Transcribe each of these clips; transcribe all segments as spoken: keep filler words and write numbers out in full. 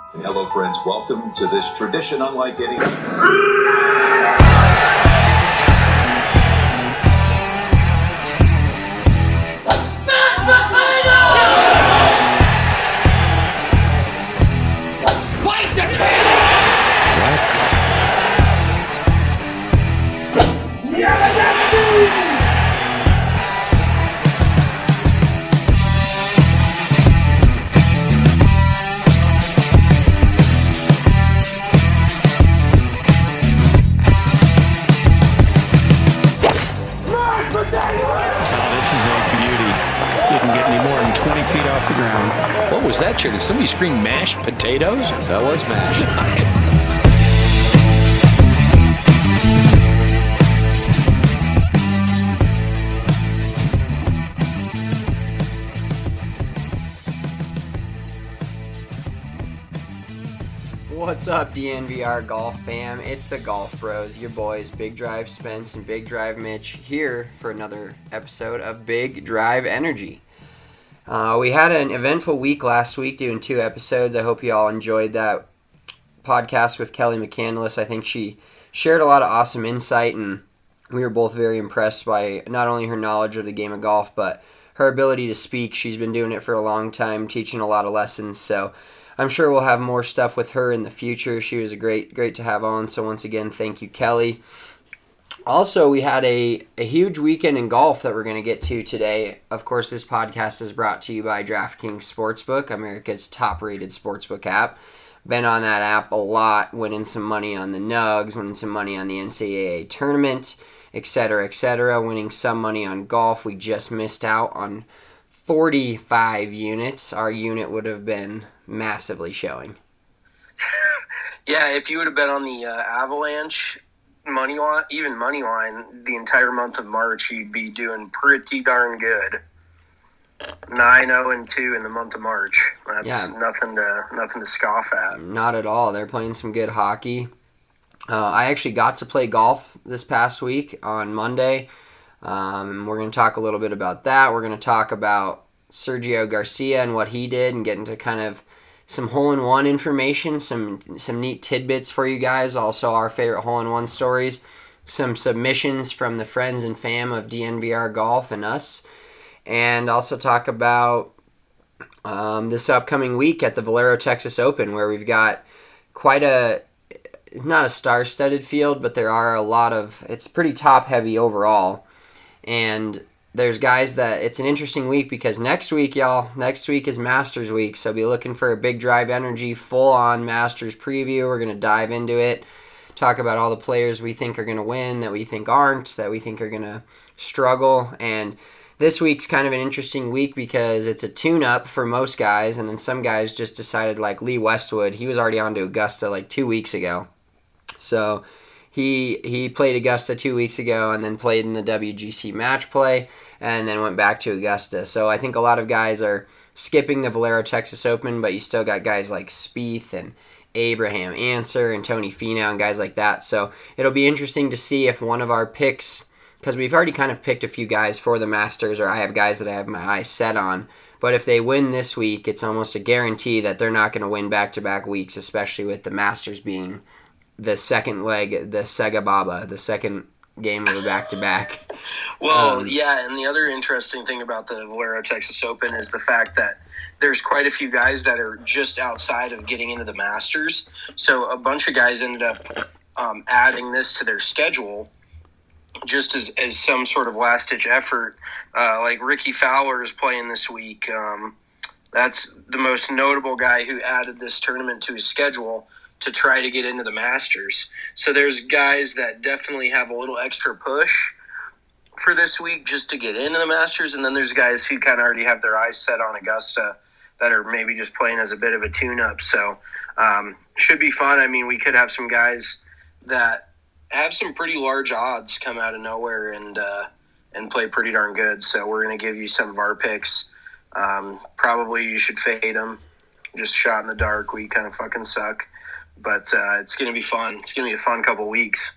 Hello, friends. Welcome to this tradition unlike any. Fight the king! What? Feet off the ground. What was that, chair? Did somebody scream mashed potatoes? That was mashed. What's up, D N V R Golf fam? It's the Golf Bros, your boys, Big Drive Spence and Big Drive Mitch, here for another episode of Big Drive Energy. Uh, we had an eventful week last week doing two episodes. I hope you all enjoyed that podcast with Kelly McCandless. I think she shared a lot of awesome insight, and we were both very impressed by not only her knowledge of the game of golf, but her ability to speak. She's been doing it for a long time, teaching a lot of lessons, so I'm sure we'll have more stuff with her in the future. She was a great, great to have on, so once again, thank you, Kelly. Also, we had a, a huge weekend in golf that we're going to get to today. Of course, this podcast is brought to you by DraftKings Sportsbook, America's top-rated sportsbook app. Been on that app a lot, winning some money on the Nugs, winning some money on the N C double A tournament, et cetera, et cetera, winning some money on golf. We just missed out on forty-five units. Our unit would have been massively showing. Yeah, if you would have bet on the uh, Avalanche money line, even money line, the entire month of March, you'd be doing pretty darn good. nine zero and two in the month of March. That's yeah. nothing to nothing to scoff at. Not at all. They're playing some good hockey. Uh, I actually got to play golf this past week on Monday. Um, we're going to talk a little bit about that. We're going to talk about Sergio Garcia and what he did, and get into kind of some hole-in-one information, some some neat tidbits for you guys, also our favorite hole-in-one stories, some submissions from the friends and fam of D N V R Golf and us, and also talk about um, this upcoming week at the Valero Texas Open, where we've got quite a, not a star-studded field, but there are a lot of, it's pretty top-heavy overall, and there's guys that, it's an interesting week because next week, y'all, next week is Masters week, so be looking for a Big Drive Energy full-on Masters preview. We're going to dive into it, talk about all the players we think are going to win, that we think aren't, that we think are going to struggle, and this week's kind of an interesting week because it's a tune-up for most guys, and then some guys just decided, like Lee Westwood, he was already on to Augusta like two weeks ago, so He he played Augusta two weeks ago and then played in the W G C match play and then went back to Augusta. So I think a lot of guys are skipping the Valero Texas Open, but you still got guys like Spieth and Abraham Ancer and Tony Finau and guys like that. So it'll be interesting to see if one of our picks, because we've already kind of picked a few guys for the Masters, or I have guys that I have my eyes set on. But if they win this week, it's almost a guarantee that they're not going to win back-to-back weeks, especially with the Masters being the second leg, the Sega Baba, the second game of a back-to-back. Well, um, yeah, and the other interesting thing about the Valero Texas Open is the fact that there's quite a few guys that are just outside of getting into the Masters. So a bunch of guys ended up um, adding this to their schedule just as, as some sort of last-ditch effort. Uh, like Ricky Fowler is playing this week. Um, that's the most notable guy who added this tournament to his schedule to try to get into the Masters. So there's guys that definitely have a little extra push for this week just to get into the Masters, and then there's guys who kind of already have their eyes set on Augusta that are maybe just playing as a bit of a tune-up. So um, should be fun. I mean, we could have some guys that have some pretty large odds come out of nowhere and uh, and play pretty darn good. So we're going to give you some of our picks. Um, probably you should fade them. Just shot in the dark. We kind of fucking suck. But uh, it's going to be fun. It's going to be a fun couple weeks.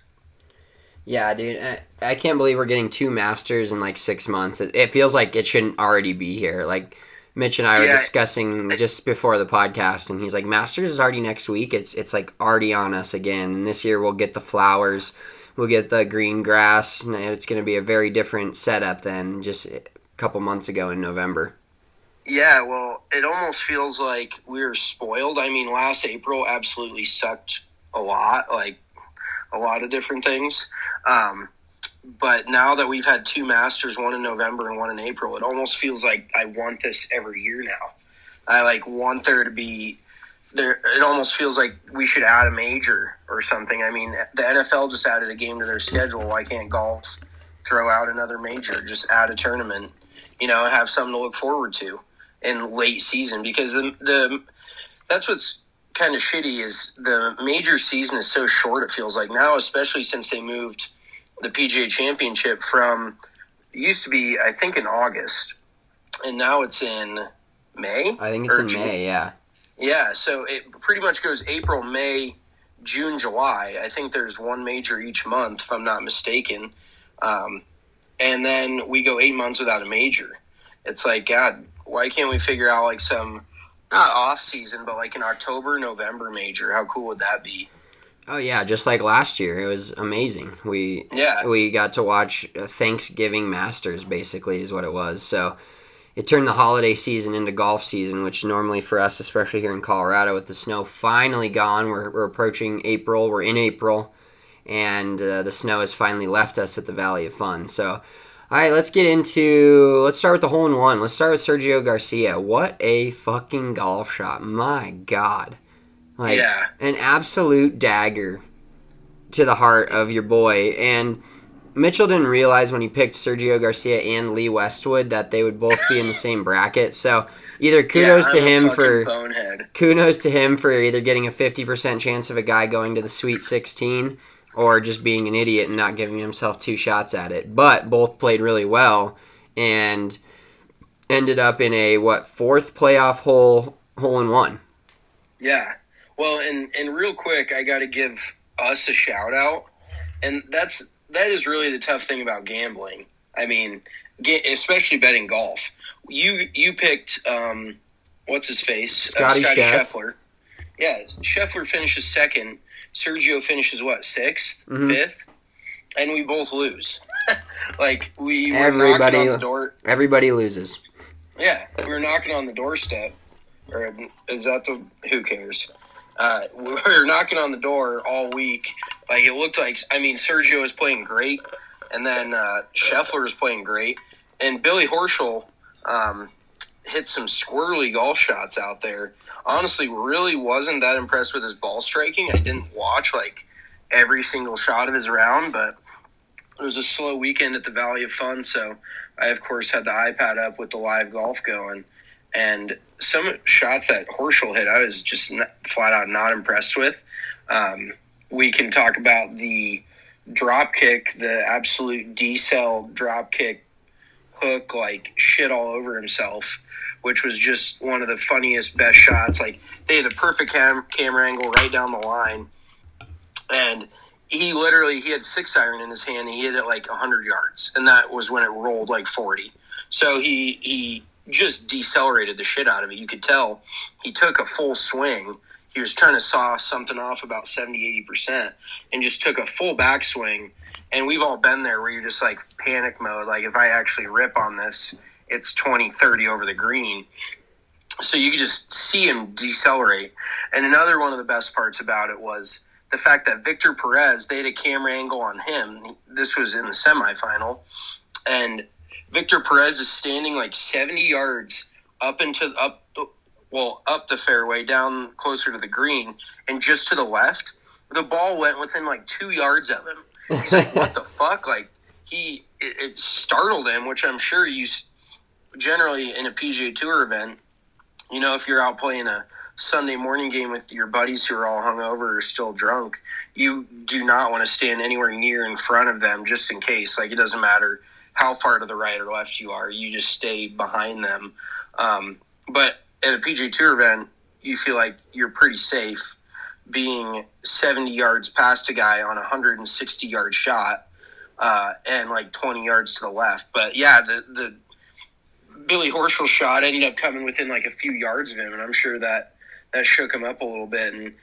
Yeah, dude. I, I can't believe we're getting two Masters in like six months. It, it feels like it shouldn't already be here. Like, Mitch and I were Yeah. discussing just before the podcast, and he's like, Masters is already next week. It's it's like already on us again. And this year we'll get the flowers, we'll get the green grass, and it's going to be a very different setup than just a couple months ago in November. Yeah, well, it almost feels like we were spoiled. I mean, last April absolutely sucked a lot, like a lot of different things. Um, but now that we've had two Masters, one in November and one in April, it almost feels like I want this every year now. I like want there to be there. It almost feels like we should add a major or something. I mean, the N F L just added a game to their schedule. Why can't golf throw out another major? Just add a tournament, you know, and have something to look forward to in late season, because the, the that's what's kind of shitty is the major season is so short. It feels like now, especially since they moved the P G A Championship from it used to be, I think, in August, and now it's in May. I think it's or in June. May, yeah. Yeah, so it pretty much goes April, May, June, July. I think there's one major each month, if I'm not mistaken. Um, and then we go eight months without a major. It's like, God, why can't we figure out like some, not off season, but like an October, November major? How cool would that be? Oh yeah, just like last year, it was amazing. We Yeah. we got to watch a Thanksgiving Masters, basically, is what it was. So it turned the holiday season into golf season, which normally for us, especially here in Colorado, with the snow finally gone, we're we're approaching April. We're in April, and uh, the snow has finally left us at the Valley of Fun. So, all right, let's get into. Let's start with the hole in one. Let's start with Sergio Garcia. What a fucking golf shot! My God. Like, Yeah. an absolute dagger to the heart of your boy. And Mitchell didn't realize when he picked Sergio Garcia and Lee Westwood that they would both be in the same bracket. So either kudos Yeah, to I'm a him fucking for bonehead. kudos to him for either getting a fifty percent chance of a guy going to the Sweet sixteen or just being an idiot and not giving himself two shots at it. But both played really well and ended up in a what fourth playoff hole hole in one. Yeah. Well, and, and real quick, I got to give us a shout out, and that's that is really the tough thing about gambling. I mean, get, especially betting golf. You you picked um, what's his face, Scotty uh, Scotty Scheffler. Scheffler. Yeah, Scheffler finishes second. Sergio finishes what sixth, Mhm. fifth, and we both lose. Like we were Everybody- knocking on the door. Everybody loses. Yeah, we were knocking on the doorstep. Or is that the? Who cares? Uh, we were knocking on the door all week. Like it looked like. I mean, Sergio was playing great, and then uh, Scheffler was playing great, and Billy Horschel um, hit some squirrely golf shots out there. Honestly, really wasn't that impressed with his ball striking. I didn't watch like every single shot of his round, but it was a slow weekend at the Valley of Fun, so I of course had the iPad up with the live golf going. And some shots that Horschel hit, I was just not, flat out not impressed with. Um, we can talk about the drop kick, the absolute D-cell drop kick hook, like shit all over himself, which was just one of the funniest, best shots. Like they had a perfect cam- camera angle right down the line, and he literally he had six iron in his hand. And he hit it like one hundred yards, and that was when it rolled like forty. So he he. just decelerated the shit out of it. You could tell he took a full swing. He was trying to saw something off about seventy, eighty percent and just took a full backswing. And we've all been there where you're just like panic mode. Like if I actually rip on this, it's twenty, thirty over the green. So you could just see him decelerate. And another one of the best parts about it was the fact that Victor Perez, they had a camera angle on him. This was in the semifinal. And Victor Perez is standing like seventy yards up into up, well, up the fairway, down closer to the green, and just to the left, the ball went within like two yards of him. He's like, "What the fuck?" Like he, it, it startled him, which I'm sure you generally in a P G A Tour event, you know, if you're out playing a Sunday morning game with your buddies who are all hungover or still drunk, you do not want to stand anywhere near in front of them just in case. Like it doesn't matter how far to the right or left you are, you just stay behind them. Um, but at a P G A Tour event, you feel like you're pretty safe being seventy yards past a guy on a one hundred sixty yard shot uh, and like twenty yards to the left. But yeah, the, the Billy Horschel's shot ended up coming within like a few yards of him, and I'm sure that that shook him up a little bit. And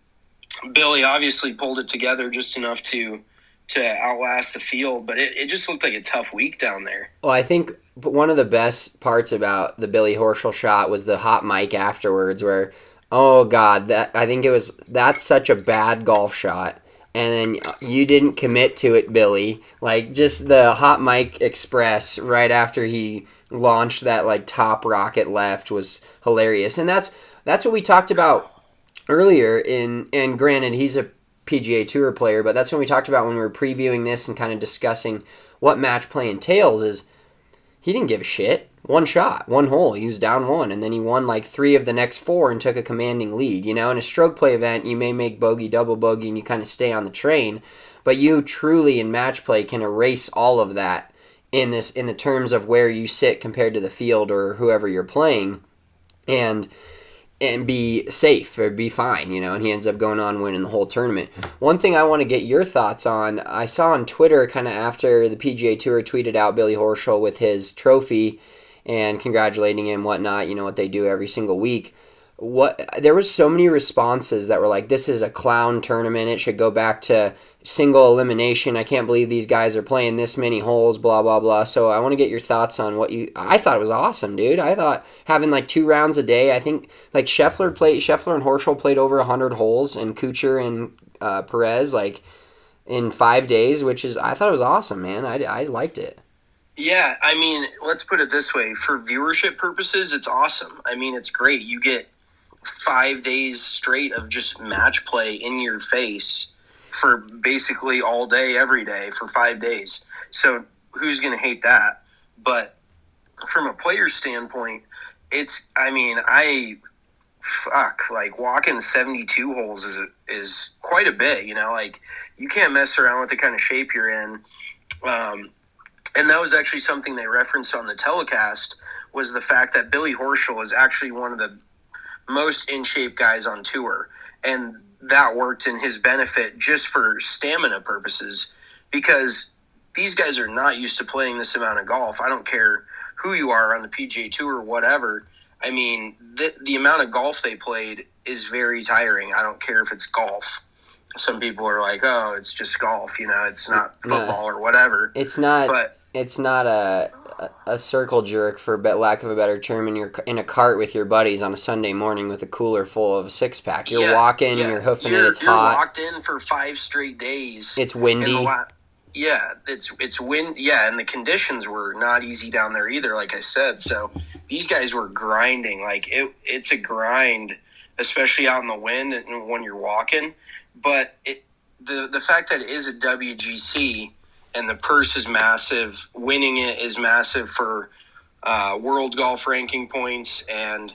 Billy obviously pulled it together just enough to to outlast the field, but it, it just looked like a tough week down there. Well, I think one of the best parts about the Billy Horschel shot was the hot mic afterwards where, oh, God, that I think it was that's such a bad golf shot. And then you didn't commit to it, Billy. Like, just the hot mic express right after he launched that, like, top rocket left was hilarious. And that's that's what we talked about earlier in, and granted, he's a P G A Tour player, but that's when we talked about when we were previewing this and kind of discussing what match play entails is he didn't give a shit. One shot, one hole. He was down one, and then he won like three of the next four and took a commanding lead. You know, in a stroke play event, you may make bogey, double bogey, and you kind of stay on the train, but you truly in match play can erase all of that in this in the terms of where you sit compared to the field or whoever you're playing, and and be safe or be fine, you know, and he ends up going on winning the whole tournament. One thing I want to get your thoughts on, I saw on Twitter kind of after the P G A Tour tweeted out Billy Horschel with his trophy and congratulating him, whatnot, you know, what they do every single week. What there was so many responses that were like, this is a clown tournament, it should go back to single elimination, I can't believe these guys are playing this many holes, blah blah blah. So I want to get your thoughts on what you I thought it was awesome, dude. I thought having like two rounds a day, I think like Scheffler played Scheffler and Horschel played over one hundred holes, and Kuchar and uh, Perez like in five days, which is I thought it was awesome, man. I, I liked it. Yeah, I mean, let's put it this way, for viewership purposes, it's awesome. I mean, it's great. You get five days straight of just match play in your face for basically all day, every day, for five days. So who's going to hate that? But from a player standpoint, it's, I mean, I, fuck, like walking seventy-two holes is is quite a bit, you know? Like, you can't mess around with the kind of shape you're in. Um, and that was actually something they referenced on the telecast, was the fact that Billy Horschel is actually one of the most in-shape guys on tour, and that worked in his benefit just for stamina purposes, because these guys are not used to playing this amount of golf. I don't care who you are on the P G A Tour or whatever. I mean, the, the amount of golf they played is very tiring. I don't care if it's golf. Some people are like, oh, it's just golf, you know, it's not football or whatever. It's not but it's not a a circle jerk, for lack of a better term, and you're in a cart with your buddies on a Sunday morning with a cooler full of a six-pack. You're yeah, walking, yeah. you're hoofing you're, it, it's you're hot. You're locked in for five straight days. It's windy. La- yeah, it's it's wind. Yeah, and the conditions were not easy down there either, like I said. So these guys were grinding. Like, it, it's a grind, especially out in the wind and when you're walking. But it, the the fact that it is a W G C and the purse is massive, winning it is massive for uh, world golf ranking points and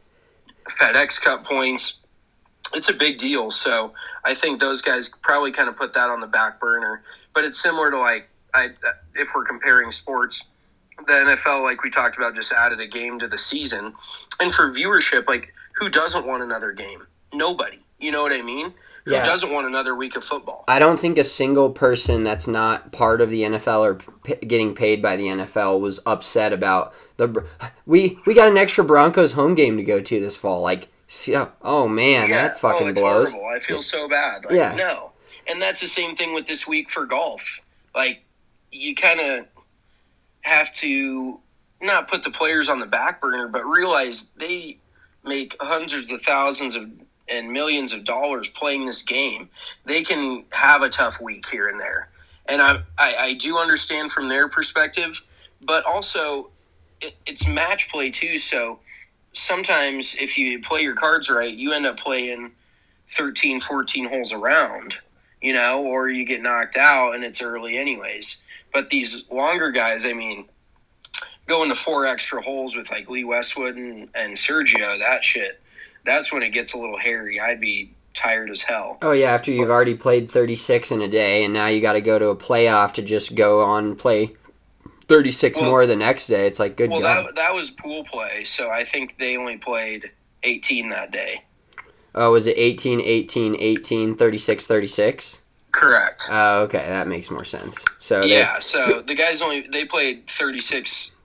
FedEx Cup points. It's a big deal. So I think those guys probably kind of put that on the back burner. But it's similar to, like, I, if we're comparing sports, the N F L, like we talked about, just added a game to the season. And for viewership, like, who doesn't want another game? Nobody. You know what I mean? Who Yeah. doesn't want another week of football? I don't think a single person that's not part of the N F L or p- getting paid by the N F L was upset about the. We we got an extra Broncos home game to go to this fall. Like, oh man, Yeah. that fucking oh, it's blows. horrible. I feel so bad. Like, Yeah. no. And that's the same thing with this week for golf. Like, you kind of have to not put the players on the back burner, but realize they make hundreds of thousands of and millions of dollars playing this game. They can have a tough week here and there. And I I, I do understand from their perspective, but also it, it's match play too. So sometimes if you play your cards right, you end up playing thirteen, fourteen holes around, you know, or you get knocked out and it's early anyways. But these longer guys, I mean, going to four extra holes with like Lee Westwood and, and Sergio, that shit, that's when it gets a little hairy. I'd be tired as hell. Oh yeah, after you've already played thirty-six in a day, and now you got to go to a playoff to just go on and play thirty-six well, more the next day. It's like, good well, God. that that was pool play, so I think they only played eighteen that day. Oh, was it eighteen, eighteen, eighteen, thirty-six, thirty-six? Correct. Oh, okay, that makes more sense. So yeah, they, so the guys only they played thirty-six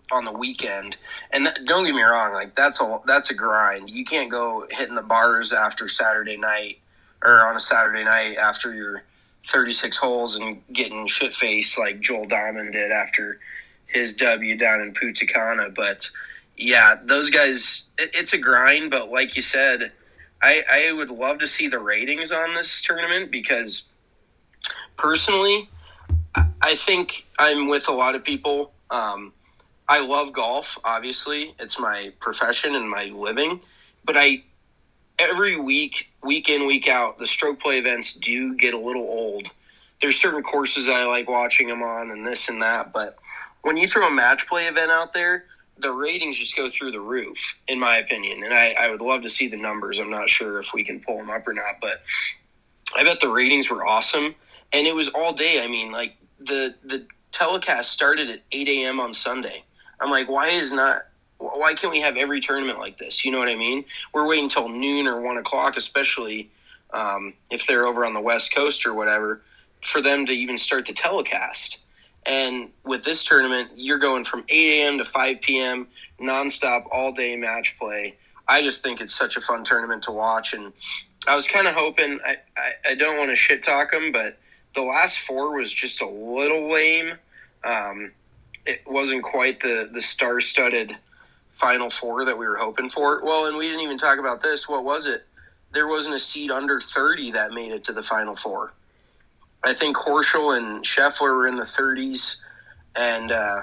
on the weekend. And that, don't get me wrong, like that's a that's a grind. You can't go hitting the bars after Saturday night or on a Saturday night after your thirty-six holes and getting shit faced like Joel Diamond did after his W down in Punta Cana. But yeah, those guys, it, it's a grind. But like you said, I, I would love to see the ratings on this tournament because personally, I think I'm with a lot of people. Um, I love golf, obviously. It's my profession and my living. But I every week, week in, week out, the stroke play events do get a little old. There's certain courses I like watching them on and this and that. But when you throw a match play event out there, the ratings just go through the roof, in my opinion. And I, I would love to see the numbers. I'm not sure if we can pull them up or not. But I bet the ratings were awesome. And it was all day. I mean, like, the the telecast started at eight a.m. on Sunday. I'm like, why is not why can't we have every tournament like this? You know what I mean? We're waiting until noon or one o'clock, especially um, if they're over on the West Coast or whatever, for them to even start the telecast. And with this tournament, you're going from eight a.m. to five p.m. nonstop, all day match play. I just think it's such a fun tournament to watch. And I was kind of hoping, I, I, I don't want to shit talk them, but the last four was just a little lame. Um, it wasn't quite the, the star-studded Final Four that we were hoping for. Well, and we didn't even talk about this. What was it? There wasn't a seed under thirty that made it to the Final Four. I think Horschel and Scheffler were in the thirties, and uh,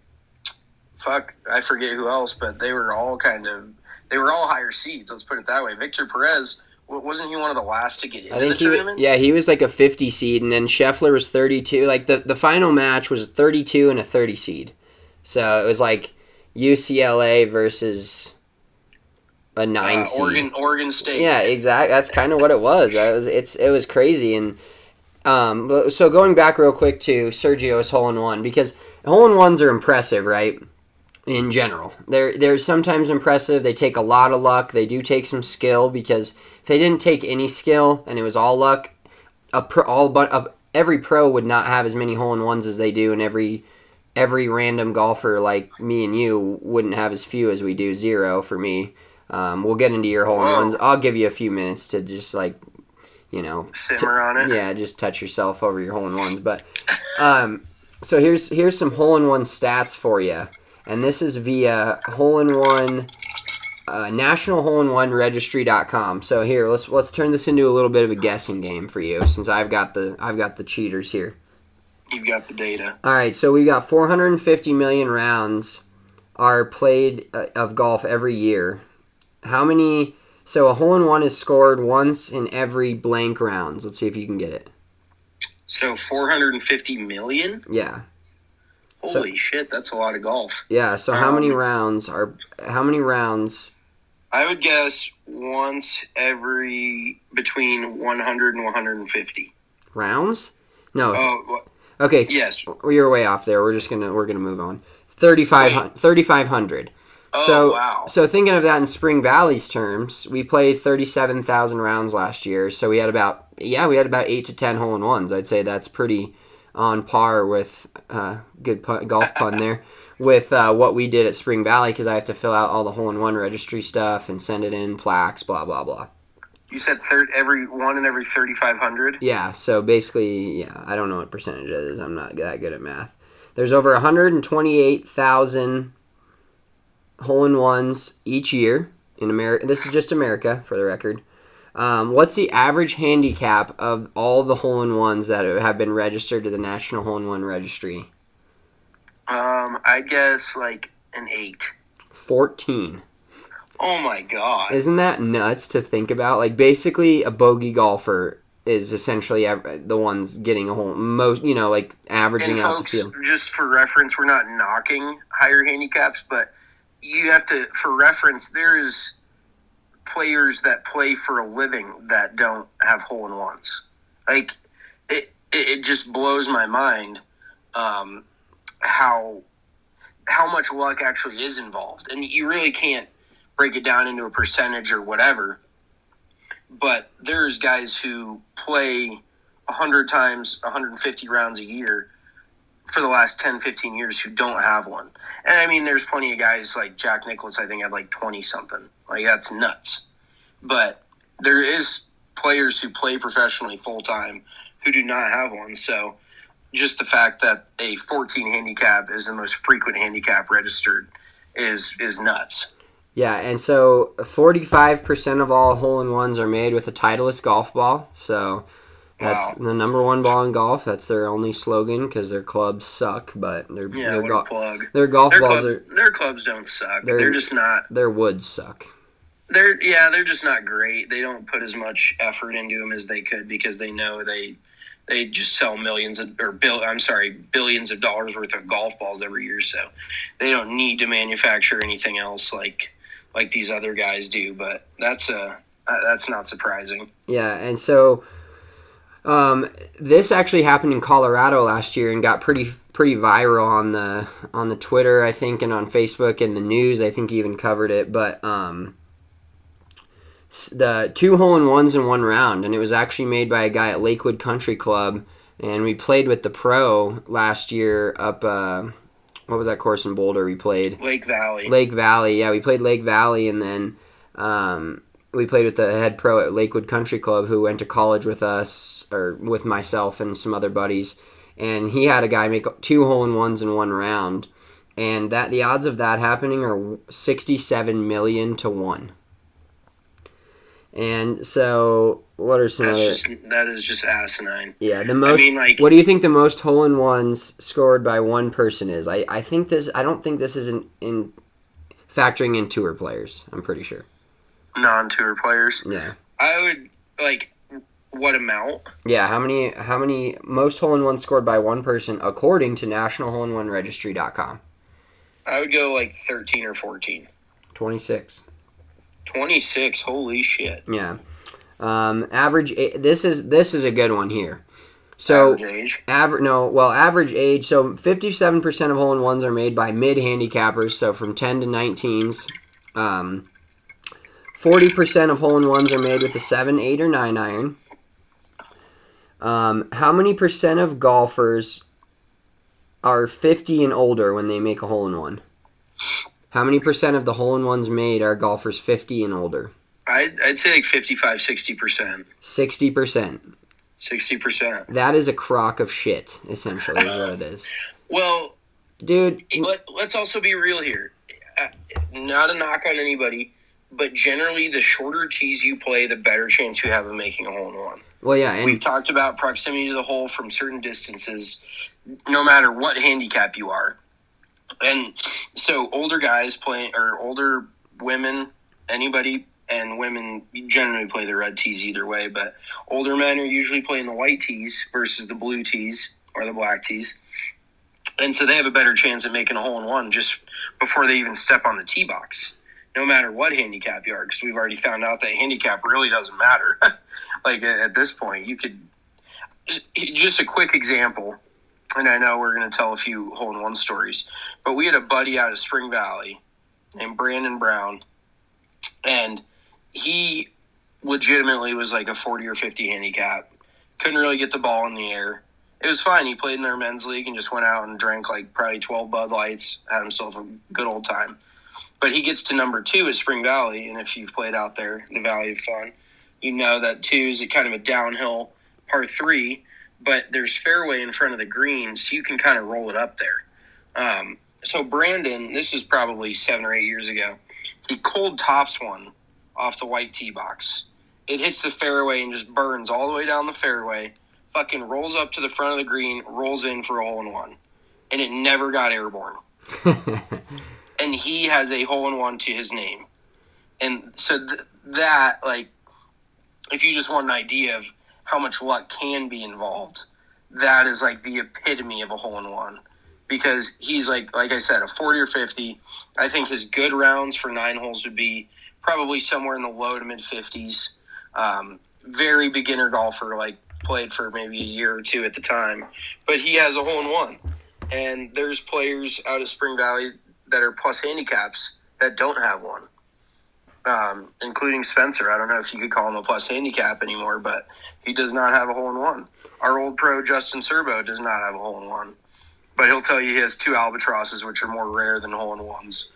fuck, I forget who else, but they were all kind of they were all higher seeds. Let's put it that way. Victor Perez, wasn't he one of the last to get into I think the he tournament? Was, yeah, he was like a fifty seed, and then Scheffler was thirty-two. Like the the final match was thirty-two and a thirty seed, so it was like U C L A versus a nine uh, seed. Oregon, Oregon State. Yeah, exactly. That's kind of what it was. It was it's it was crazy. And um, so going back real quick to Sergio's hole in one, because hole in ones are impressive, right? In general, they're they're sometimes impressive. They take a lot of luck. They do take some skill, because if they didn't take any skill and it was all luck, a pro, all but a, every pro would not have as many hole in ones as they do, and every every random golfer like me and you wouldn't have as few as we do. Zero for me. Um, we'll get into your hole in ones. I'll give you a few minutes to just like, you know, simmer t- on it. Yeah, just touch yourself over your hole in ones. But um, so here's here's some hole in one stats for you. And this is via hole in one, uh, national hole in one registry dot com. So here, let's let's turn this into a little bit of a guessing game for you, since I've got the I've got the cheaters here. You've got the data. All right, so we got four hundred fifty million rounds are played uh, of golf every year. How many? So a hole in one is scored once in every blank rounds. Let's see if you can get it. So four hundred fifty million? Yeah. Holy so, shit, that's a lot of golf. Yeah, so how um, many rounds are how many rounds? I would guess once every between one hundred and one hundred fifty. Rounds? No. Oh, well, okay. yes. You're way off there. We're just going to we're going to move on. thirty-five hundred. Oh, so, wow. So thinking of that in Spring Valley's terms, we played thirty-seven thousand rounds last year. So we had about yeah, we had about eight to ten hole in ones. I'd say that's pretty on par with uh, good pun, golf pun there with uh, what we did at Spring Valley, because I have to fill out all the hole in one registry stuff and send it in, plaques, blah blah blah. You said third every one in every thirty-five hundred. Yeah. So basically, yeah, I don't know what percentage it is. I'm not that good at math. There's over one hundred twenty-eight thousand hole in ones each year in America. This is just America, for the record. Um, what's the average handicap of all the hole in ones that have been registered to the National Hole in One Registry? Um, I guess like an eight. Fourteen. Oh my god! Isn't that nuts to think about? Like, basically, a bogey golfer is essentially ev- the ones getting a hole. Most, you know, like averaging and out folks, the field. Just for reference, we're not knocking higher handicaps, but you have to, for reference, there is players that play for a living that don't have hole in ones. Like, it, it just blows my mind um, how how much luck actually is involved, and you really can't break it down into a percentage or whatever. But there's guys who play a hundred times, one hundred fifty rounds a year for the last ten, fifteen years who don't have one. And I mean, there's plenty of guys like Jack Nicklaus, I think, had like twenty something. Like, that's nuts. But there is players who play professionally full time who do not have one. So just the fact that a fourteen handicap is the most frequent handicap registered is is nuts. Yeah, and so forty-five percent of all hole-in-ones are made with a Titleist golf ball. So that's Wow. the number one ball in golf. That's their only slogan because their clubs suck, but their Yeah, their, what go- a plug. their golf Their balls clubs, are their clubs don't suck. They're- They're, just not. their woods suck. They're yeah, they're just not great. They don't put as much effort into them as they could because they know they they just sell millions of or bill. I'm sorry, billions of dollars worth of golf balls every year. So they don't need to manufacture anything else like like these other guys do. But that's a uh, that's not surprising. Yeah, and so um, this actually happened in Colorado last year and got pretty pretty viral on the on the Twitter, I think, and on Facebook and the news. I think he even covered it. But um, s- the two hole in ones in one round, and it was actually made by a guy at Lakewood Country Club, and we played with the pro last year up. Uh, what was that course in Boulder we played? Lake Valley. Lake Valley, yeah, we played Lake Valley, and then um, we played with the head pro at Lakewood Country Club who went to college with us, or with myself and some other buddies, and he had a guy make two hole-in-ones in one round, and that the odds of that happening are sixty-seven million to one. And so, what are some That's other... just that is just asinine. Yeah, the most. mean, like- what do you think the most hole-in-ones scored by one person is? I, I think this. I don't think this is in, in factoring in tour players. I'm pretty sure. Non-tour players. Yeah. I would like what amount? Yeah. How many? How many most hole-in-ones scored by one person according to National Hole in One Registry dot com? I would go like thirteen or fourteen. Twenty-six. twenty-six. Holy shit. Yeah. Um, average. a- This is this is a good one here. So Average age. average. No. Well, average age. So fifty-seven percent of hole-in-ones are made by mid-handicappers. So from ten to nineteens. Um. forty percent of hole-in-ones are made with a seven, eight, or nine iron. Um, how many percent of golfers are fifty and older when they make a hole-in-one? How many percent of the hole-in-ones made are golfers fifty and older? I'd, I'd say like fifty-five, sixty percent. sixty percent. sixty percent. That is a crock of shit, essentially, is what it is. Well, Dude, let, let's also be real here. Uh, not a knock on anybody, but generally the shorter tees you play, the better chance you have of making a hole-in-one. well, yeah, and We've talked about proximity to the hole from certain distances, no matter what handicap you are. And so older guys play, or older women, anybody, and women generally play the red tees either way, but older men are usually playing the white tees versus the blue tees or the black tees. And so they have a better chance of making a hole-in-one just before they even step on the tee box, no matter what handicap you are, because we've already found out that handicap really doesn't matter. Like, at this point, you could – just a quick example, and I know we're going to tell a few hole-in-one stories, but we had a buddy out of Spring Valley named Brandon Brown, and he legitimately was like a forty or fifty handicap. Couldn't really get the ball in the air. It was fine. He played in our men's league and just went out and drank like probably twelve Bud Lights, had himself a good old time. But he gets to number two at Spring Valley, and if you've played out there, the Valley of Fun, you know that two is kind of a downhill par three, but there's fairway in front of the green, so you can kind of roll it up there. Um, so Brandon, this is probably seven or eight years ago, he cold tops one off the white tee box. It hits the fairway and just burns all the way down the fairway, fucking rolls up to the front of the green, rolls in for a hole-in-one. And it never got airborne. And he has a hole-in-one to his name. And so th- that, like, if you just want an idea of how much luck can be involved, that is, like, the epitome of a hole-in-one. Because he's, like, like I said, a forty or fifty. I think his good rounds for nine holes would be probably somewhere in the low to mid-fifties. Um, very beginner golfer, like, played for maybe a year or two at the time. But he has a hole-in-one. And there's players out of Spring Valley that are plus handicaps that don't have one, um, including Spencer. I don't know if you could call him a plus handicap anymore, but he does not have a hole-in-one. Our old pro, Justin Serbo, does not have a hole-in-one. but he'll tell you he has two albatrosses, which are more rare than hole-in-ones.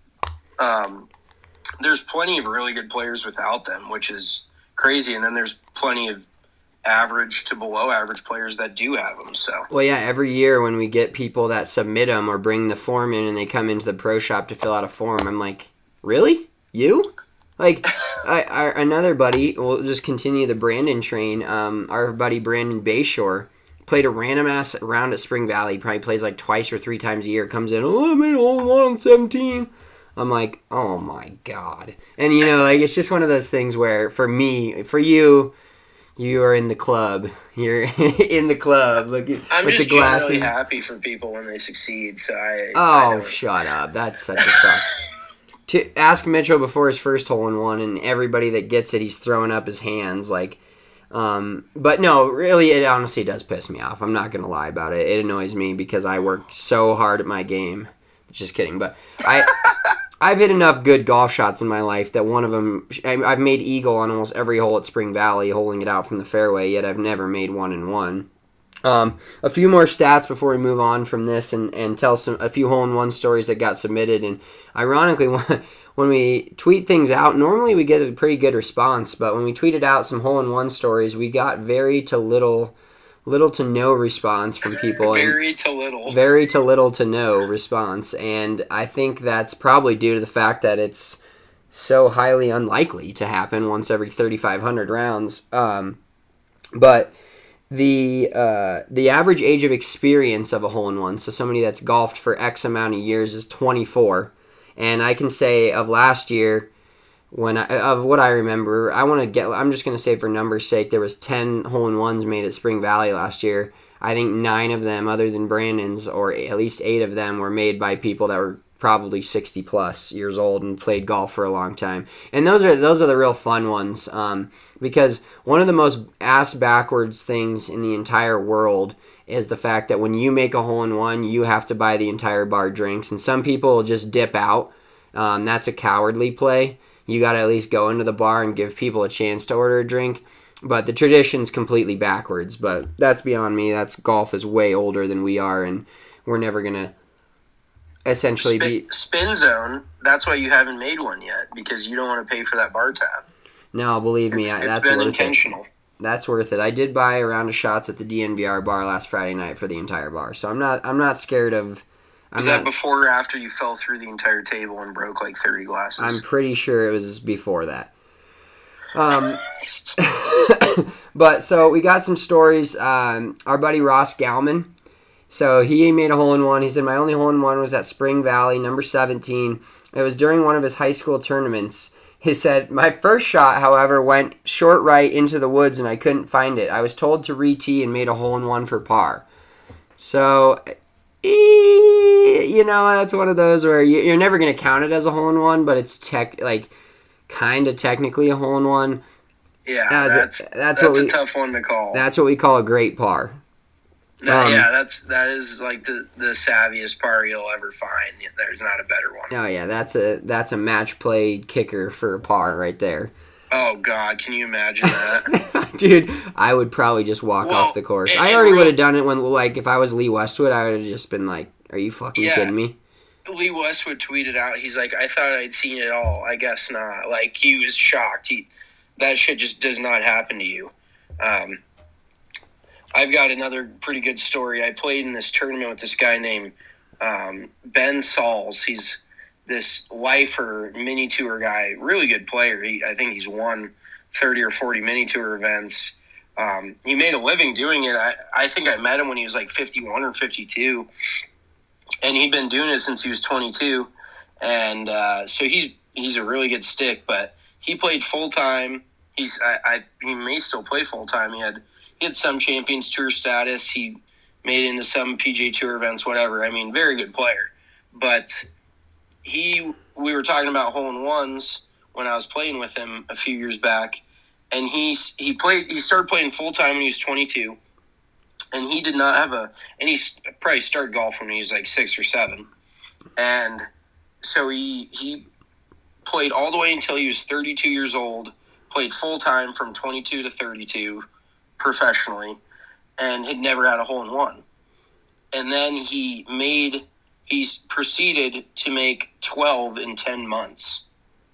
Um, there's plenty of really good players without them, which is crazy, and then there's plenty of average to below average players that do have them. So well, yeah, every year when we get people that submit them or bring the form in and they come into the pro shop to fill out a form, I'm like, really? You? Like, I, our, another buddy, we'll just continue the Brandon train, um, our buddy Brandon Bayshore played a random ass round at Spring Valley. He probably plays like twice or three times a year. Comes in, oh, I made a hole in one on seventeen. I'm like, oh my God. And, you know, like, it's just one of those things where, for me, for you, you are in the club. You're in the club. Look at, I'm with just the glasses. generally happy for people when they succeed. So I. Oh, I don't- shut up. That's such a fuck. To ask Mitchell before his first hole in one, and everybody that gets it, he's throwing up his hands. Like, um, but no, really, it honestly does piss me off. I'm not going to lie about it. It annoys me because I work so hard at my game. Just kidding. But I. I've hit enough good golf shots in my life that one of them, I've made eagle on almost every hole at Spring Valley, holding it out from the fairway, yet I've never made one in one. Um, a few more stats before we move on from this and, and tell some a few hole-in-one stories that got submitted. And ironically, when, when we tweet things out, normally we get a pretty good response, but when we tweeted out some hole-in-one stories, we got very to little... little to no response from people. Very and to little. Very to little to no response. And I think that's probably due to the fact that it's so highly unlikely to happen once every thirty-five hundred rounds. Um, but the uh, the average age of experience of a hole-in-one, so somebody that's golfed for X amount of years, is twenty-four. And I can say of last year, When I, of what I remember, I want to get. I'm just going to say for numbers' sake, there was ten hole-in-ones made at Spring Valley last year. I think nine of them, other than Brandon's, or at least eight of them, were made by people that were probably sixty plus years old and played golf for a long time. And those are those are the real fun ones, um, because one of the most ass backwards things in the entire world is the fact that when you make a hole-in-one, you have to buy the entire bar drinks, and some people will just dip out. Um, that's a cowardly play. You got to at least go into the bar and give people a chance to order a drink. But the tradition's completely backwards. But that's beyond me. That's golf is way older than we are, and we're never going to essentially spin, be... Spin zone, that's why you haven't made one yet, because you don't want to pay for that bar tab. No, believe me, It's, I, it's that's been worth intentional. it. That's worth it. I did buy a round of shots at the D N V R bar last Friday night for the entire bar. So I'm not I'm not scared of... I'm Was that not, before or after you fell through the entire table and broke like thirty glasses? I'm pretty sure it was before that. Um, but so we got some stories. Um, our buddy Ross Galman. So he made a hole-in-one. He said, my only hole-in-one was at Spring Valley, number seventeen. It was during one of his high school tournaments. He said, my first shot, however, went short right into the woods and I couldn't find it. I was told to re-tee and made a hole-in-one for par. So... you know, that's one of those where you're never going to count it as a hole-in-one, but it's tech like kind of technically a hole-in-one. Yeah, That's that's a- that's, that's what a we- tough one to call. That's what we call a great par. No, um, yeah, that's that is like the, the savviest par you'll ever find. There's not a better one. Oh yeah, that's a that's a match play kicker for a par right there. Oh God, can you imagine that? Dude, I would probably just walk Well, off the course. and- I and already real- would have done it when, like, if I was Lee Westwood, I would have just been like, "Are you fucking Yeah. kidding me?" Lee Westwood tweeted out, he's like, I thought I'd seen it all. I guess not. Like, he was shocked. He, that shit just does not happen to you. Um, I've got another pretty good story. I played in this tournament with this guy named um, Ben Sauls. He's this lifer mini tour guy, really good player. He, I think he's won thirty or forty mini tour events. Um, he made a living doing it. I, I think I met him when he was like fifty-one or fifty-two. And he'd been doing it since he was twenty-two, and uh, so he's he's a really good stick. But he played full time. He's I, I he may still play full time. He had he had some Champions Tour status. He made it into some P G A Tour events, whatever. I mean, very good player. But he we were talking about hole in ones when I was playing with him a few years back, and he he played he started playing full time when he was twenty-two. And he did not have a, and he probably started golf when he was like six or seven. And so he he played all the way until he was thirty-two years old, played full time from twenty-two to thirty-two professionally, and had never had a hole in one. and then he made he proceeded to make twelve in ten months.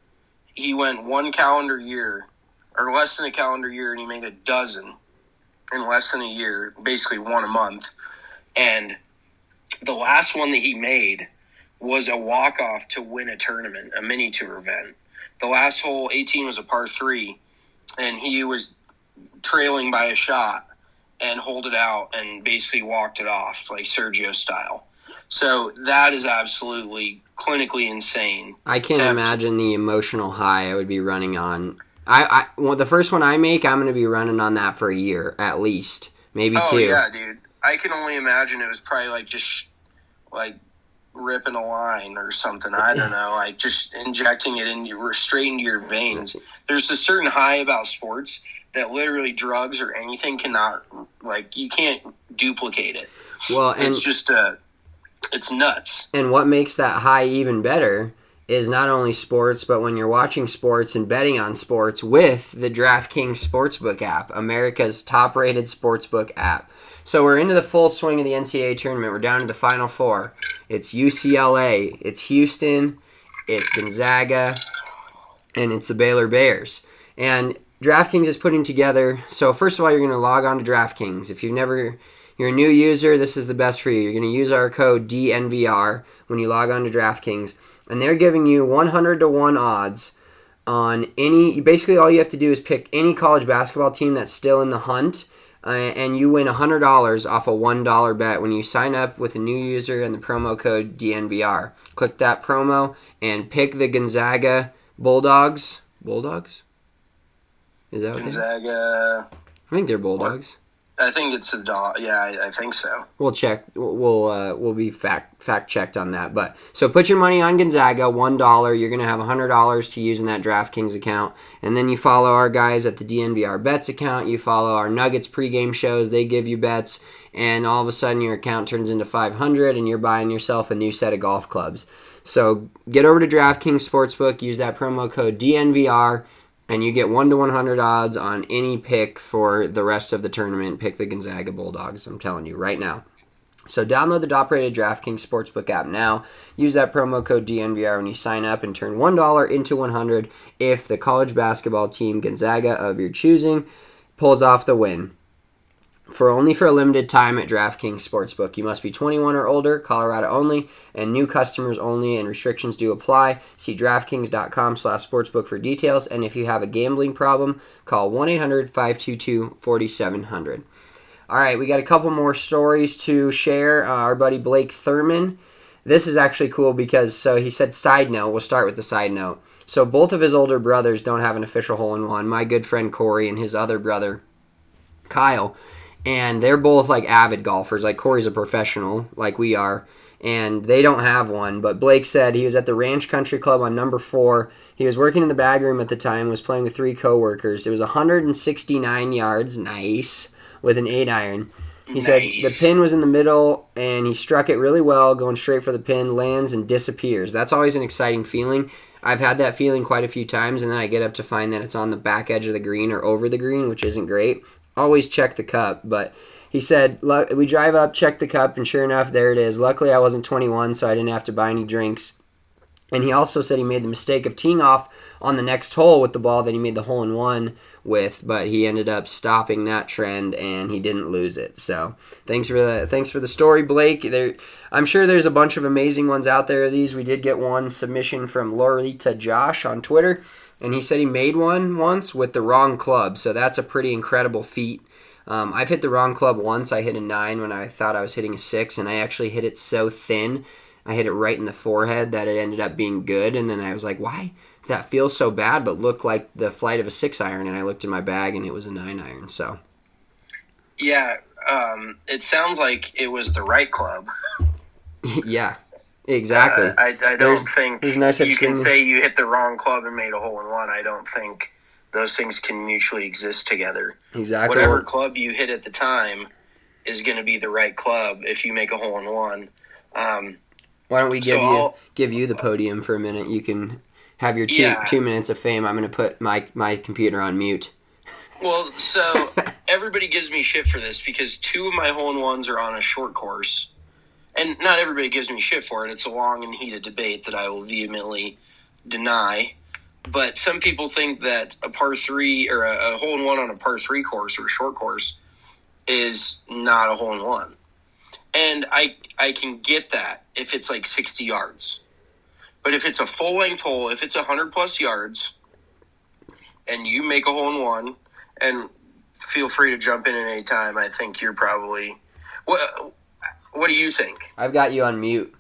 He went one calendar year, or less than a calendar year, and he made a dozen in less than a year, basically one a month. And the last one that he made was a walk-off to win a tournament, a mini-tour event. The last hole, eighteen, was a par three, and he was trailing by a shot and hold it out and basically walked it off, like Sergio style. So that is absolutely clinically insane. I can't imagine the emotional high I would be running on. I, I well, the first one I make, I'm going to be running on that for a year at least, maybe oh, two. Oh yeah, dude. I can only imagine it was probably like just like ripping a line or something. I don't know. Like just injecting it in your straight into your veins. There's a certain high about sports that literally drugs or anything cannot, like, you can't duplicate it. Well, and it's just a, it's nuts. And what makes that high even better is not only sports, but when you're watching sports and betting on sports with the DraftKings Sportsbook app, America's top-rated sportsbook app. So we're into the full swing of the N C double A tournament. We're down to the Final Four. It's U C L A, it's Houston, it's Gonzaga, and it's the Baylor Bears. And DraftKings is putting together, so first of all, you're going to log on to DraftKings. If you've never, you're a new user, this is the best for you. You're going to use our code D N V R when you log on to DraftKings, and they're giving you one hundred to one odds on any, basically all you have to do is pick any college basketball team that's still in the hunt, uh, and you win one hundred dollars off a one dollar bet when you sign up with a new user and the promo code D N V R. Click that promo and pick the Gonzaga Bulldogs. Bulldogs? Is that what Gonzaga? I think they're Bulldogs. I think it's a dog. Yeah, I, I think so. We'll check. We'll uh, we'll be fact fact checked on that. But so put your money on Gonzaga, one dollar. You're gonna have a hundred dollars to use in that DraftKings account, and then you follow our guys at the D N V R Bets account. You follow our Nuggets pregame shows. They give you bets, and all of a sudden your account turns into five hundred, and you're buying yourself a new set of golf clubs. So get over to DraftKings Sportsbook. Use that promo code D N V R. And you get one to one hundred odds on any pick for the rest of the tournament. Pick the Gonzaga Bulldogs, I'm telling you right now. So download the top-rated DraftKings Sportsbook app now. Use that promo code D N V R when you sign up and turn one dollar into one hundred if the college basketball team Gonzaga of your choosing pulls off the win. For only for a limited time at DraftKings Sportsbook. You must be twenty-one or older, Colorado only, and new customers only, and restrictions do apply. See DraftKings.com slash sportsbook for details, and if you have a gambling problem, call one eight hundred five two two four seven zero zero. All right, we got a couple more stories to share. Uh, our buddy Blake Thurman. This is actually cool because, so he said side note. We'll start with the side note. So both of his older brothers don't have an official hole-in-one. My good friend Corey and his other brother, Kyle. And they're both, like, avid golfers. Like, Corey's a professional, like we are. And they don't have one. But Blake said he was at the Ranch Country Club on number four. He was working in the bag room at the time, was playing with three coworkers. It was one hundred sixty-nine yards, nice, with an eight iron. He nice. Said the pin was in the middle, and he struck it really well, going straight for the pin, lands, and disappears. That's always an exciting feeling. I've had that feeling quite a few times, and then I get up to find that it's on the back edge of the green or over the green, which isn't great. Always check the cup, but he said, we drive up, check the cup, and sure enough, there it is. Luckily, I wasn't twenty-one, so I didn't have to buy any drinks. And he also said he made the mistake of teeing off on the next hole with the ball that he made the hole-in-one with, but he ended up stopping that trend, and he didn't lose it. So thanks for the thanks for the story, Blake. There, I'm sure there's a bunch of amazing ones out there. These we did get one submission from Lorita Josh on Twitter, and he said he made one once with the wrong club, so that's a pretty incredible feat. Um, I've hit the wrong club once. I hit a nine when I thought I was hitting a six, and I actually hit it so thin, I hit it right in the forehead that it ended up being good, and then I was like, why? That feels so bad, but looked like the flight of a six iron, and I looked in my bag, and it was a nine iron. So, yeah, um, it sounds like it was the right club. Yeah, exactly. Uh, I, I don't there's, think there's no such you can thing. say you hit the wrong club and made a hole in one. I don't think those things can mutually exist together. Exactly. Whatever club you hit at the time is going to be the right club if you make a hole in one. Um, Why don't we give so you I'll, give you the podium for a minute? You can have your two yeah. two minutes of fame. I'm going to put my, my computer on mute. Well, so everybody gives me shit for this because two of my hole-in-ones are on a short course, and not everybody gives me shit for it. It's a long and heated debate that I will vehemently deny. But some people think that a par three or a, a hole in one on a par three course or a short course is not a hole in one. And I I can get that if it's like sixty yards. But if it's a full length hole, if it's one hundred plus yards, and you make a hole in one, and feel free to jump in at any time, I think you're probably. What What do you think? I've got you on mute.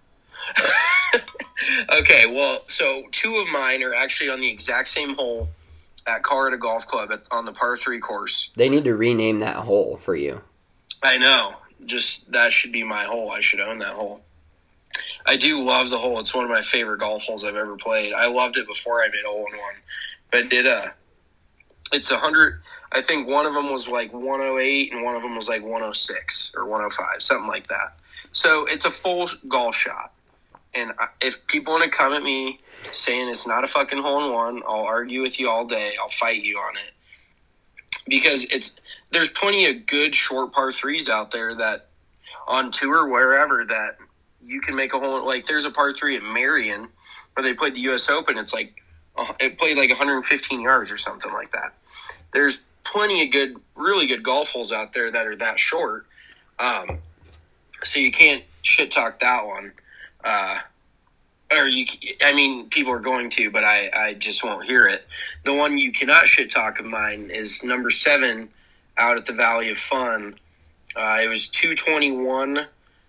Okay, well, so two of mine are actually on the exact same hole at Colorado Golf Club at, on the par three course. They need to rename that hole for you. I know. Just that should be my hole. I should own that hole. I do love the hole. It's one of my favorite golf holes I've ever played. I loved it before I made a hole in one, but it uh, it's a hundred. I think one of them was like one oh eight and one of them was like one oh six or one oh five, something like that. So it's a full golf shot. And if people want to come at me saying it's not a fucking hole in one, I'll argue with you all day. I'll fight you on it. Because it's there's plenty of good short par threes out there that on tour, wherever, that you can make a hole. Like there's a par three at Marion where they played the U S Open. It's like it played like one hundred fifteen yards or something like that. There's plenty of good, really good golf holes out there that are that short. Um, so you can't shit talk that one. Uh, or you, I mean, people are going to, but I, I just won't hear it. The one you cannot shit talk of mine is number seven out at the Valley of Fun. Uh, it was two twenty-one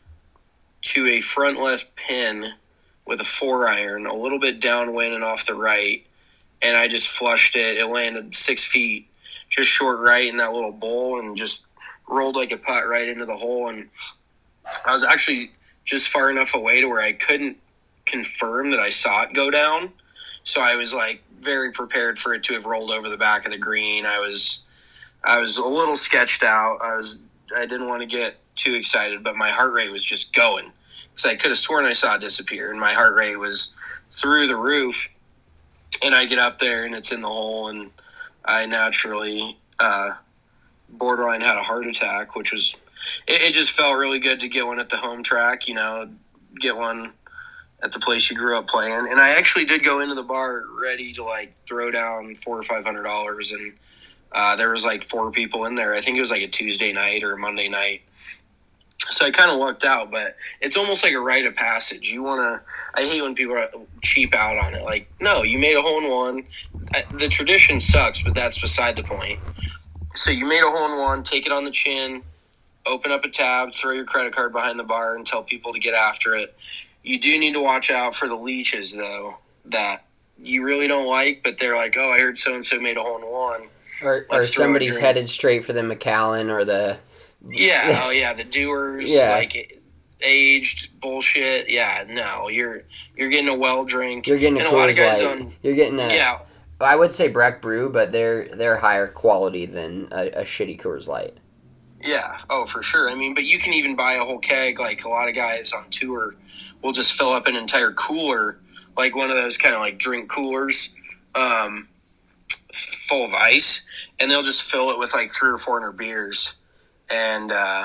to a front left pin with a four iron, a little bit downwind and off the right. And I just flushed it. It landed six feet, just short right in that little bowl and just rolled like a putt right into the hole. And I was actually just far enough away to where I couldn't confirm that I saw it go down. So I was like very prepared for it to have rolled over the back of the green. I was, I was a little sketched out. I was, I didn't want to get too excited, but my heart rate was just going because I could have sworn I saw it disappear, and my heart rate was through the roof. And I get up there and it's in the hole, and I naturally, uh, borderline had a heart attack, which was, It, it just felt really good to get one at the home track, you know, get one at the place you grew up playing. And I actually did go into the bar ready to like throw down four or five hundred dollars, and uh, there was like four people in there. I think it was like a Tuesday night or a Monday night. So I kind of lucked out, but it's almost like a rite of passage. You want to, I hate when people cheap out on it. Like, no, you made a hole in one. The tradition sucks, but that's beside the point. So you made a hole in one, take it on the chin, open up a tab, throw your credit card behind the bar, and tell people to get after it. You do need to watch out for the leeches, though, that you really don't like, but they're like, oh, I heard so-and-so made a hole in one. Or, or somebody's headed straight for the Macallan or the... Yeah, oh yeah, the doers, yeah. like aged bullshit. Yeah, no, you're you're getting a well drink. You're getting a Coors Light. On, you're getting a... Yeah. I would say Breck Brew, but they're, they're higher quality than a, a shitty Coors Light. Yeah, oh, for sure. I mean, but you can even buy a whole keg. Like, a lot of guys on tour will just fill up an entire cooler, like one of those kind of like drink coolers, um, full of ice, and they'll just fill it with like three or four hundred beers. And, uh...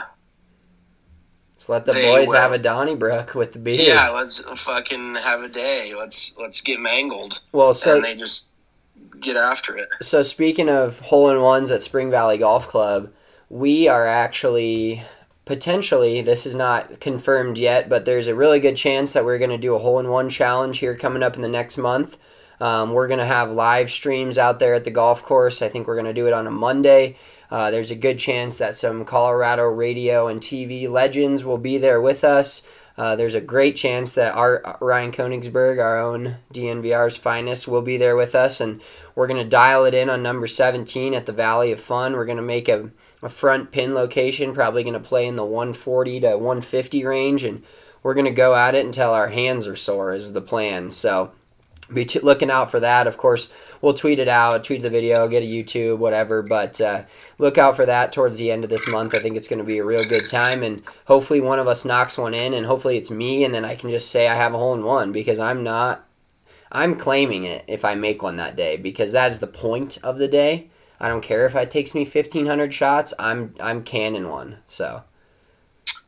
Just let the boys will. have a Donnybrook with the beers. Yeah, let's fucking have a day. Let's let's get mangled. Well, so... And they just get after it. So, speaking of hole-in-ones at Spring Valley Golf Club, we are actually, potentially, this is not confirmed yet, but there's a really good chance that we're going to do a hole-in-one challenge here coming up in the next month. Um, we're going to have live streams out there at the golf course. I think we're going to do it on a Monday. Uh, there's a good chance that some Colorado radio and T V legends will be there with us. Uh, there's a great chance that our Ryan Koenigsberg, our own D N V R's finest, will be there with us, and we're going to dial it in on number seventeen at the Valley of Fun. We're going to make a, a front pin location, probably going to play in the one forty to one fifty range, and we're going to go at it until our hands are sore is the plan. So be t- looking out for that. Of course, we'll tweet it out, tweet the video, get a YouTube, whatever, but uh, look out for that towards the end of this month. I think it's going to be a real good time, and hopefully one of us knocks one in, and hopefully it's me, and then I can just say I have a hole in one, because I'm not, I'm claiming it if I make one that day, because that is the point of the day. I don't care if it takes me fifteen hundred shots, I'm I'm canning one, so.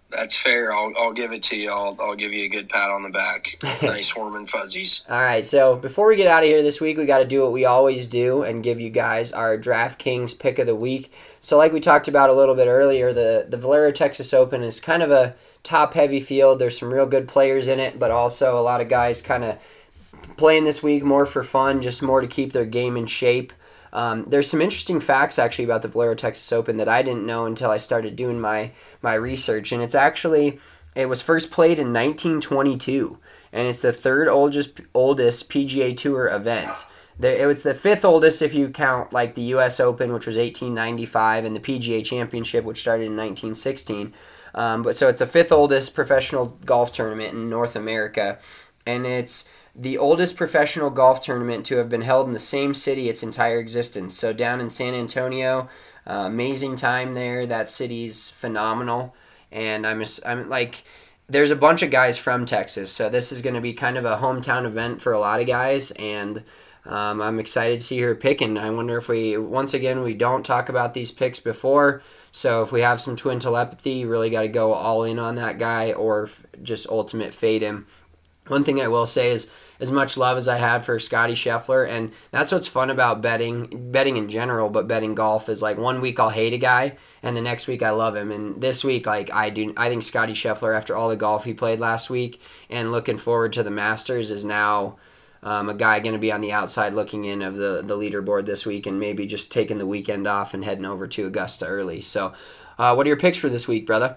That's fair. I'll I'll give it to you. I'll I'll give you a good pat on the back. Nice warm and fuzzies. All right, so before we get out of here this week, we got to do what we always do and give you guys our DraftKings pick of the week. So like we talked about a little bit earlier, the, the Valero Texas Open is kind of a top-heavy field. There's some real good players in it, but also a lot of guys kind of playing this week more for fun, just more to keep their game in shape. Um, there's some interesting facts actually about the Valero Texas Open that I didn't know until I started doing my, my research, and it's actually, it was first played in nineteen twenty-two, and it's the third oldest oldest P G A Tour event. The, it was the fifth oldest if you count like the U S Open, which was eighteen ninety-five, and the P G A Championship, which started in nineteen sixteen. Um, but so it's the fifth oldest professional golf tournament in North America, and it's the oldest professional golf tournament to have been held in the same city its entire existence. So down in San Antonio, uh, amazing time there. That city's phenomenal, and I'm just, I'm like, there's a bunch of guys from Texas, so this is going to be kind of a hometown event for a lot of guys, and um, I'm excited to see her picking. I wonder if we, once again, we don't talk about these picks before, so if we have some twin telepathy, you really got to go all in on that guy or just ultimate fade him. One thing I will say is, as much love as I had for Scotty Scheffler, and that's what's fun about betting, betting in general, but betting golf is like one week I'll hate a guy, and the next week I love him. And this week, like I do, I think Scotty Scheffler, after all the golf he played last week, and looking forward to the Masters, is now um, a guy going to be on the outside looking in of the the leaderboard this week, and maybe just taking the weekend off and heading over to Augusta early. So, uh, what are your picks for this week, brother?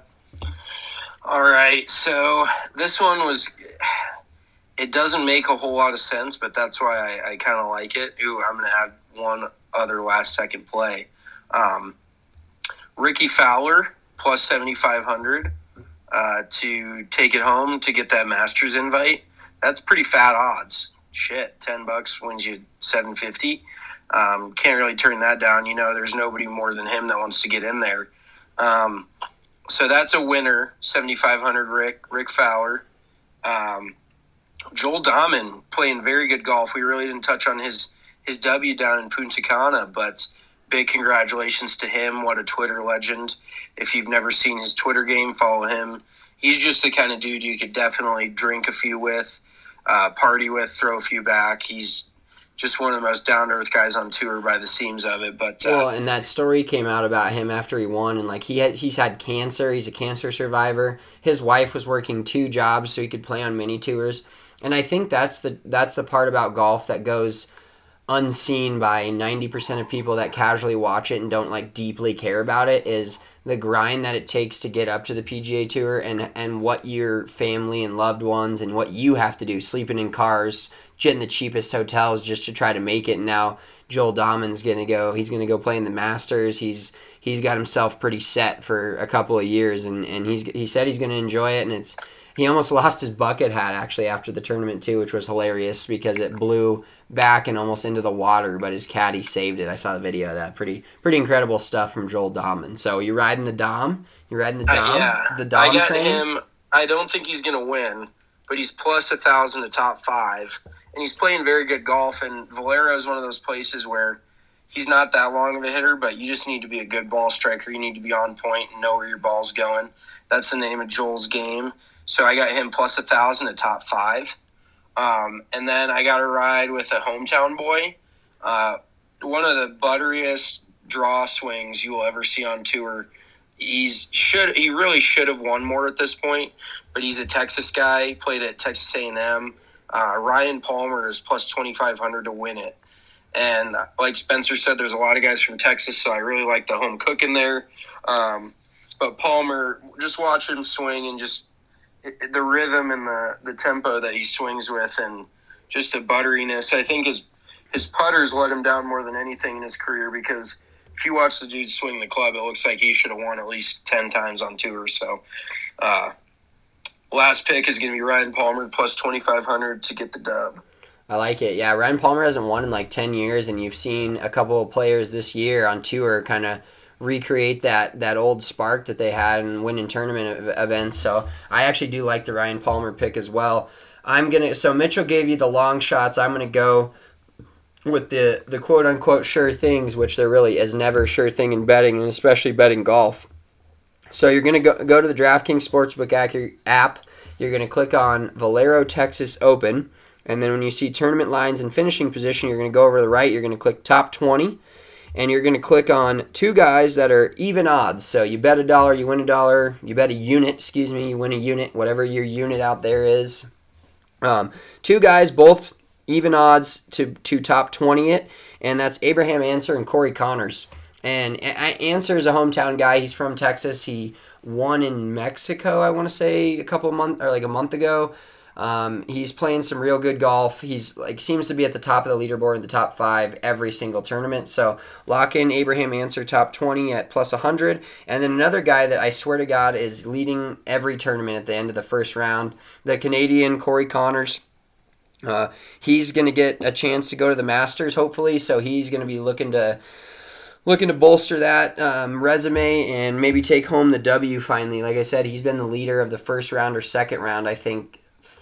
All right, so this one was. It doesn't make a whole lot of sense, but that's why I, I kind of like it. Ooh, I'm going to have one other last-second play. Um, Ricky Fowler, plus seventy-five hundred uh, to take it home to get that Masters invite. That's pretty fat odds. Shit, ten bucks wins you seven fifty. Um, can't really turn that down. You know, there's nobody more than him that wants to get in there. Um, so that's a winner, seventy-five hundred Rick, Rick Fowler. Um, Joel Dahman playing very good golf. We really didn't touch on his, his W down in Punta Cana, but big congratulations to him. What a Twitter legend. If you've never seen his Twitter game, follow him. He's just the kind of dude you could definitely drink a few with, uh, party with, throw a few back. He's just one of the most down-to-earth guys on tour by the seams of it. But uh, well, and that story came out about him after he won, and like he had, he's had cancer. He's a cancer survivor. His wife was working two jobs so he could play on mini tours. And I think that's the that's the part about golf that goes unseen by ninety percent of people that casually watch it and don't like deeply care about it, is the grind that it takes to get up to the P G A Tour, and and what your family and loved ones and what you have to do, sleeping in cars, getting the cheapest hotels just to try to make it. And now Joel Dahman's gonna go he's gonna go play in the Masters. He's he's got himself pretty set for a couple of years, and, and he's he said he's gonna enjoy it, and it's he almost lost his bucket hat actually after the tournament too, which was hilarious because it blew back and almost into the water, but his caddy saved it. I saw the video of that. Pretty pretty incredible stuff from Joel Dahman. So you riding the Dom? You riding the Dom? Uh, yeah, the Dom I got train? him. I don't think he's going to win, but he's plus a thousand to top five, and he's playing very good golf. And Valero is one of those places where he's not that long of a hitter, but you just need to be a good ball striker. You need to be on point and know where your ball's going. That's the name of Joel's game. So I got him plus a thousand at top five. Um, and then I got to ride with a hometown boy. Uh, one of the butteriest draw swings you will ever see on tour. He's should he really should have won more at this point, but he's a Texas guy. He played at Texas A and M. Uh, Ryan Palmer is plus twenty-five hundred to win it. And like Spencer said, there's a lot of guys from Texas, so I really like the home cook in there. Um, but Palmer, just watch him swing and just the rhythm and the, the tempo that he swings with, and just the butteriness. I think his his putters let him down more than anything in his career, because if you watch the dude swing the club, it looks like he should have won at least ten times on tour. So uh, last pick is going to be Ryan Palmer, plus twenty-five hundred to get the dub. I like it. Yeah, Ryan Palmer hasn't won in like ten years, and you've seen a couple of players this year on tour kind of recreate that that old spark that they had and win in tournament events. So I actually do like the Ryan Palmer pick as well. I'm gonna so Mitchell gave you the long shots. I'm gonna go with the the quote unquote sure things, which there really is never a sure thing in betting, and especially betting golf. So you're going to go go to the DraftKings Sportsbook app. You're going to click on Valero Texas Open. And then when you see tournament lines and finishing position, you're going to go over to the right. You're going to click top twenty. And you're going to click on two guys that are even odds. So you bet a dollar, you win a dollar. You bet a unit, excuse me, you win a unit, whatever your unit out there is. Um, two guys, both even odds to, to top twenty it. And that's Abraham Ancer and Corey Connors. And Ancer is a hometown guy. He's from Texas. He won in Mexico, I want to say, a couple months or like a month ago. Um, he's playing some real good golf. He's like seems to be at the top of the leaderboard in the top five every single tournament. So lock in Abraham Ancer top twenty at plus one hundred. And then another guy that I swear to God is leading every tournament at the end of the first round, the Canadian Corey Connors. Uh, he's going to get a chance to go to the Masters, hopefully. So he's going to be looking to looking to bolster that um, resume and maybe take home the W finally. Like I said, he's been the leader of the first round or second round, I think,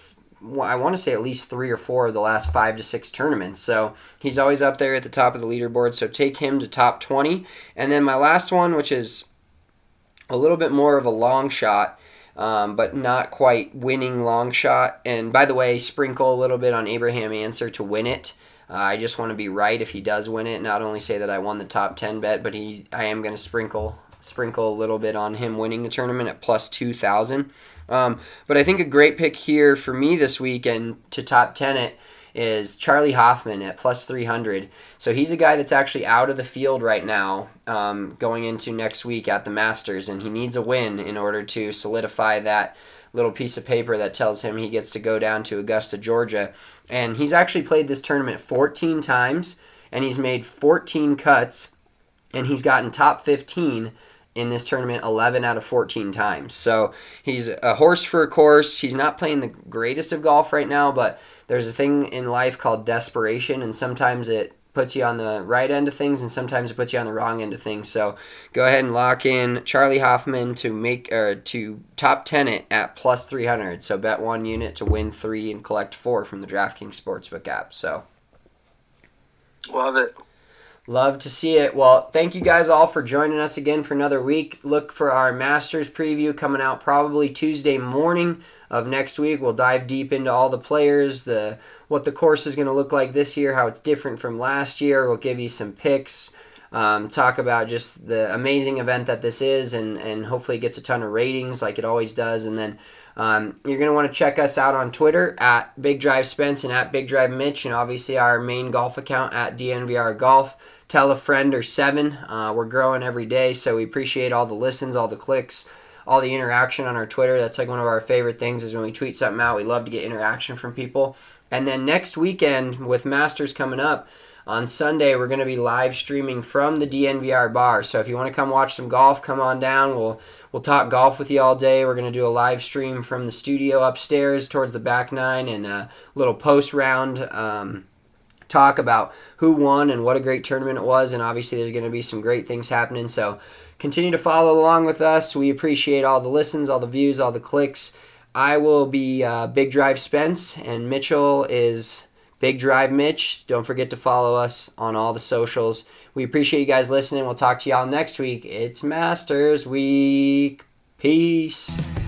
I want to say at least three or four of the last five to six tournaments. So he's always up there at the top of the leaderboard. So take him to top twenty. And then my last one, which is a little bit more of a long shot, um, but not quite winning long shot. And by the way, sprinkle a little bit on Abraham Ancer to win it. Uh, I just want to be right if he does win it. Not only say that I won the top ten bet, but he I am going to sprinkle sprinkle a little bit on him winning the tournament at plus two thousand. Um, but I think a great pick here for me this weekend to top ten it is Charlie Hoffman at plus three hundred. So he's a guy that's actually out of the field right now um, going into next week at the Masters, and he needs a win in order to solidify that little piece of paper that tells him he gets to go down to Augusta, Georgia. And he's actually played this tournament fourteen times, and he's made fourteen cuts, and he's gotten top fifteen in this tournament eleven out of fourteen times. So he's a horse for a course. He's not playing the greatest of golf right now, but there's a thing in life called desperation, and sometimes it puts you on the right end of things, and sometimes it puts you on the wrong end of things. So go ahead and lock in Charlie Hoffman to make or to top ten it at plus three hundred. So bet one unit to win three and collect four from the DraftKings Sportsbook app. So love it. Love to see it. Well, thank you guys all for joining us again for another week. Look for our Masters preview coming out probably Tuesday morning of next week. We'll dive deep into all the players, the what the course is going to look like this year, how it's different from last year. We'll give you some picks, um, talk about just the amazing event that this is, and, and hopefully it gets a ton of ratings like it always does. And then um, you're going to want to check us out on Twitter at Big Drive Spence and at Big Drive Mitch, and obviously our main golf account at D N V R Golf. Tell a friend or seven. Uh, we're growing every day, so we appreciate all the listens, all the clicks, all the interaction on our Twitter. That's like one of our favorite things is when we tweet something out. We love to get interaction from people. And then next weekend with Masters coming up, on Sunday we're going to be live streaming from the D N V R bar. So if you want to come watch some golf, come on down. We'll we'll talk golf with you all day. We're going to do a live stream from the studio upstairs towards the back nine and a little post round um, talk about who won and what a great tournament it was. And obviously there's going to be some great things happening. So continue to follow along with us. We appreciate all the listens, all the views, all the clicks. I will be uh, Big Drive Spence, and Mitchell is Big Drive Mitch. Don't forget to follow us on all the socials. We appreciate you guys listening. We'll talk to y'all next week. It's Masters Week. Peace.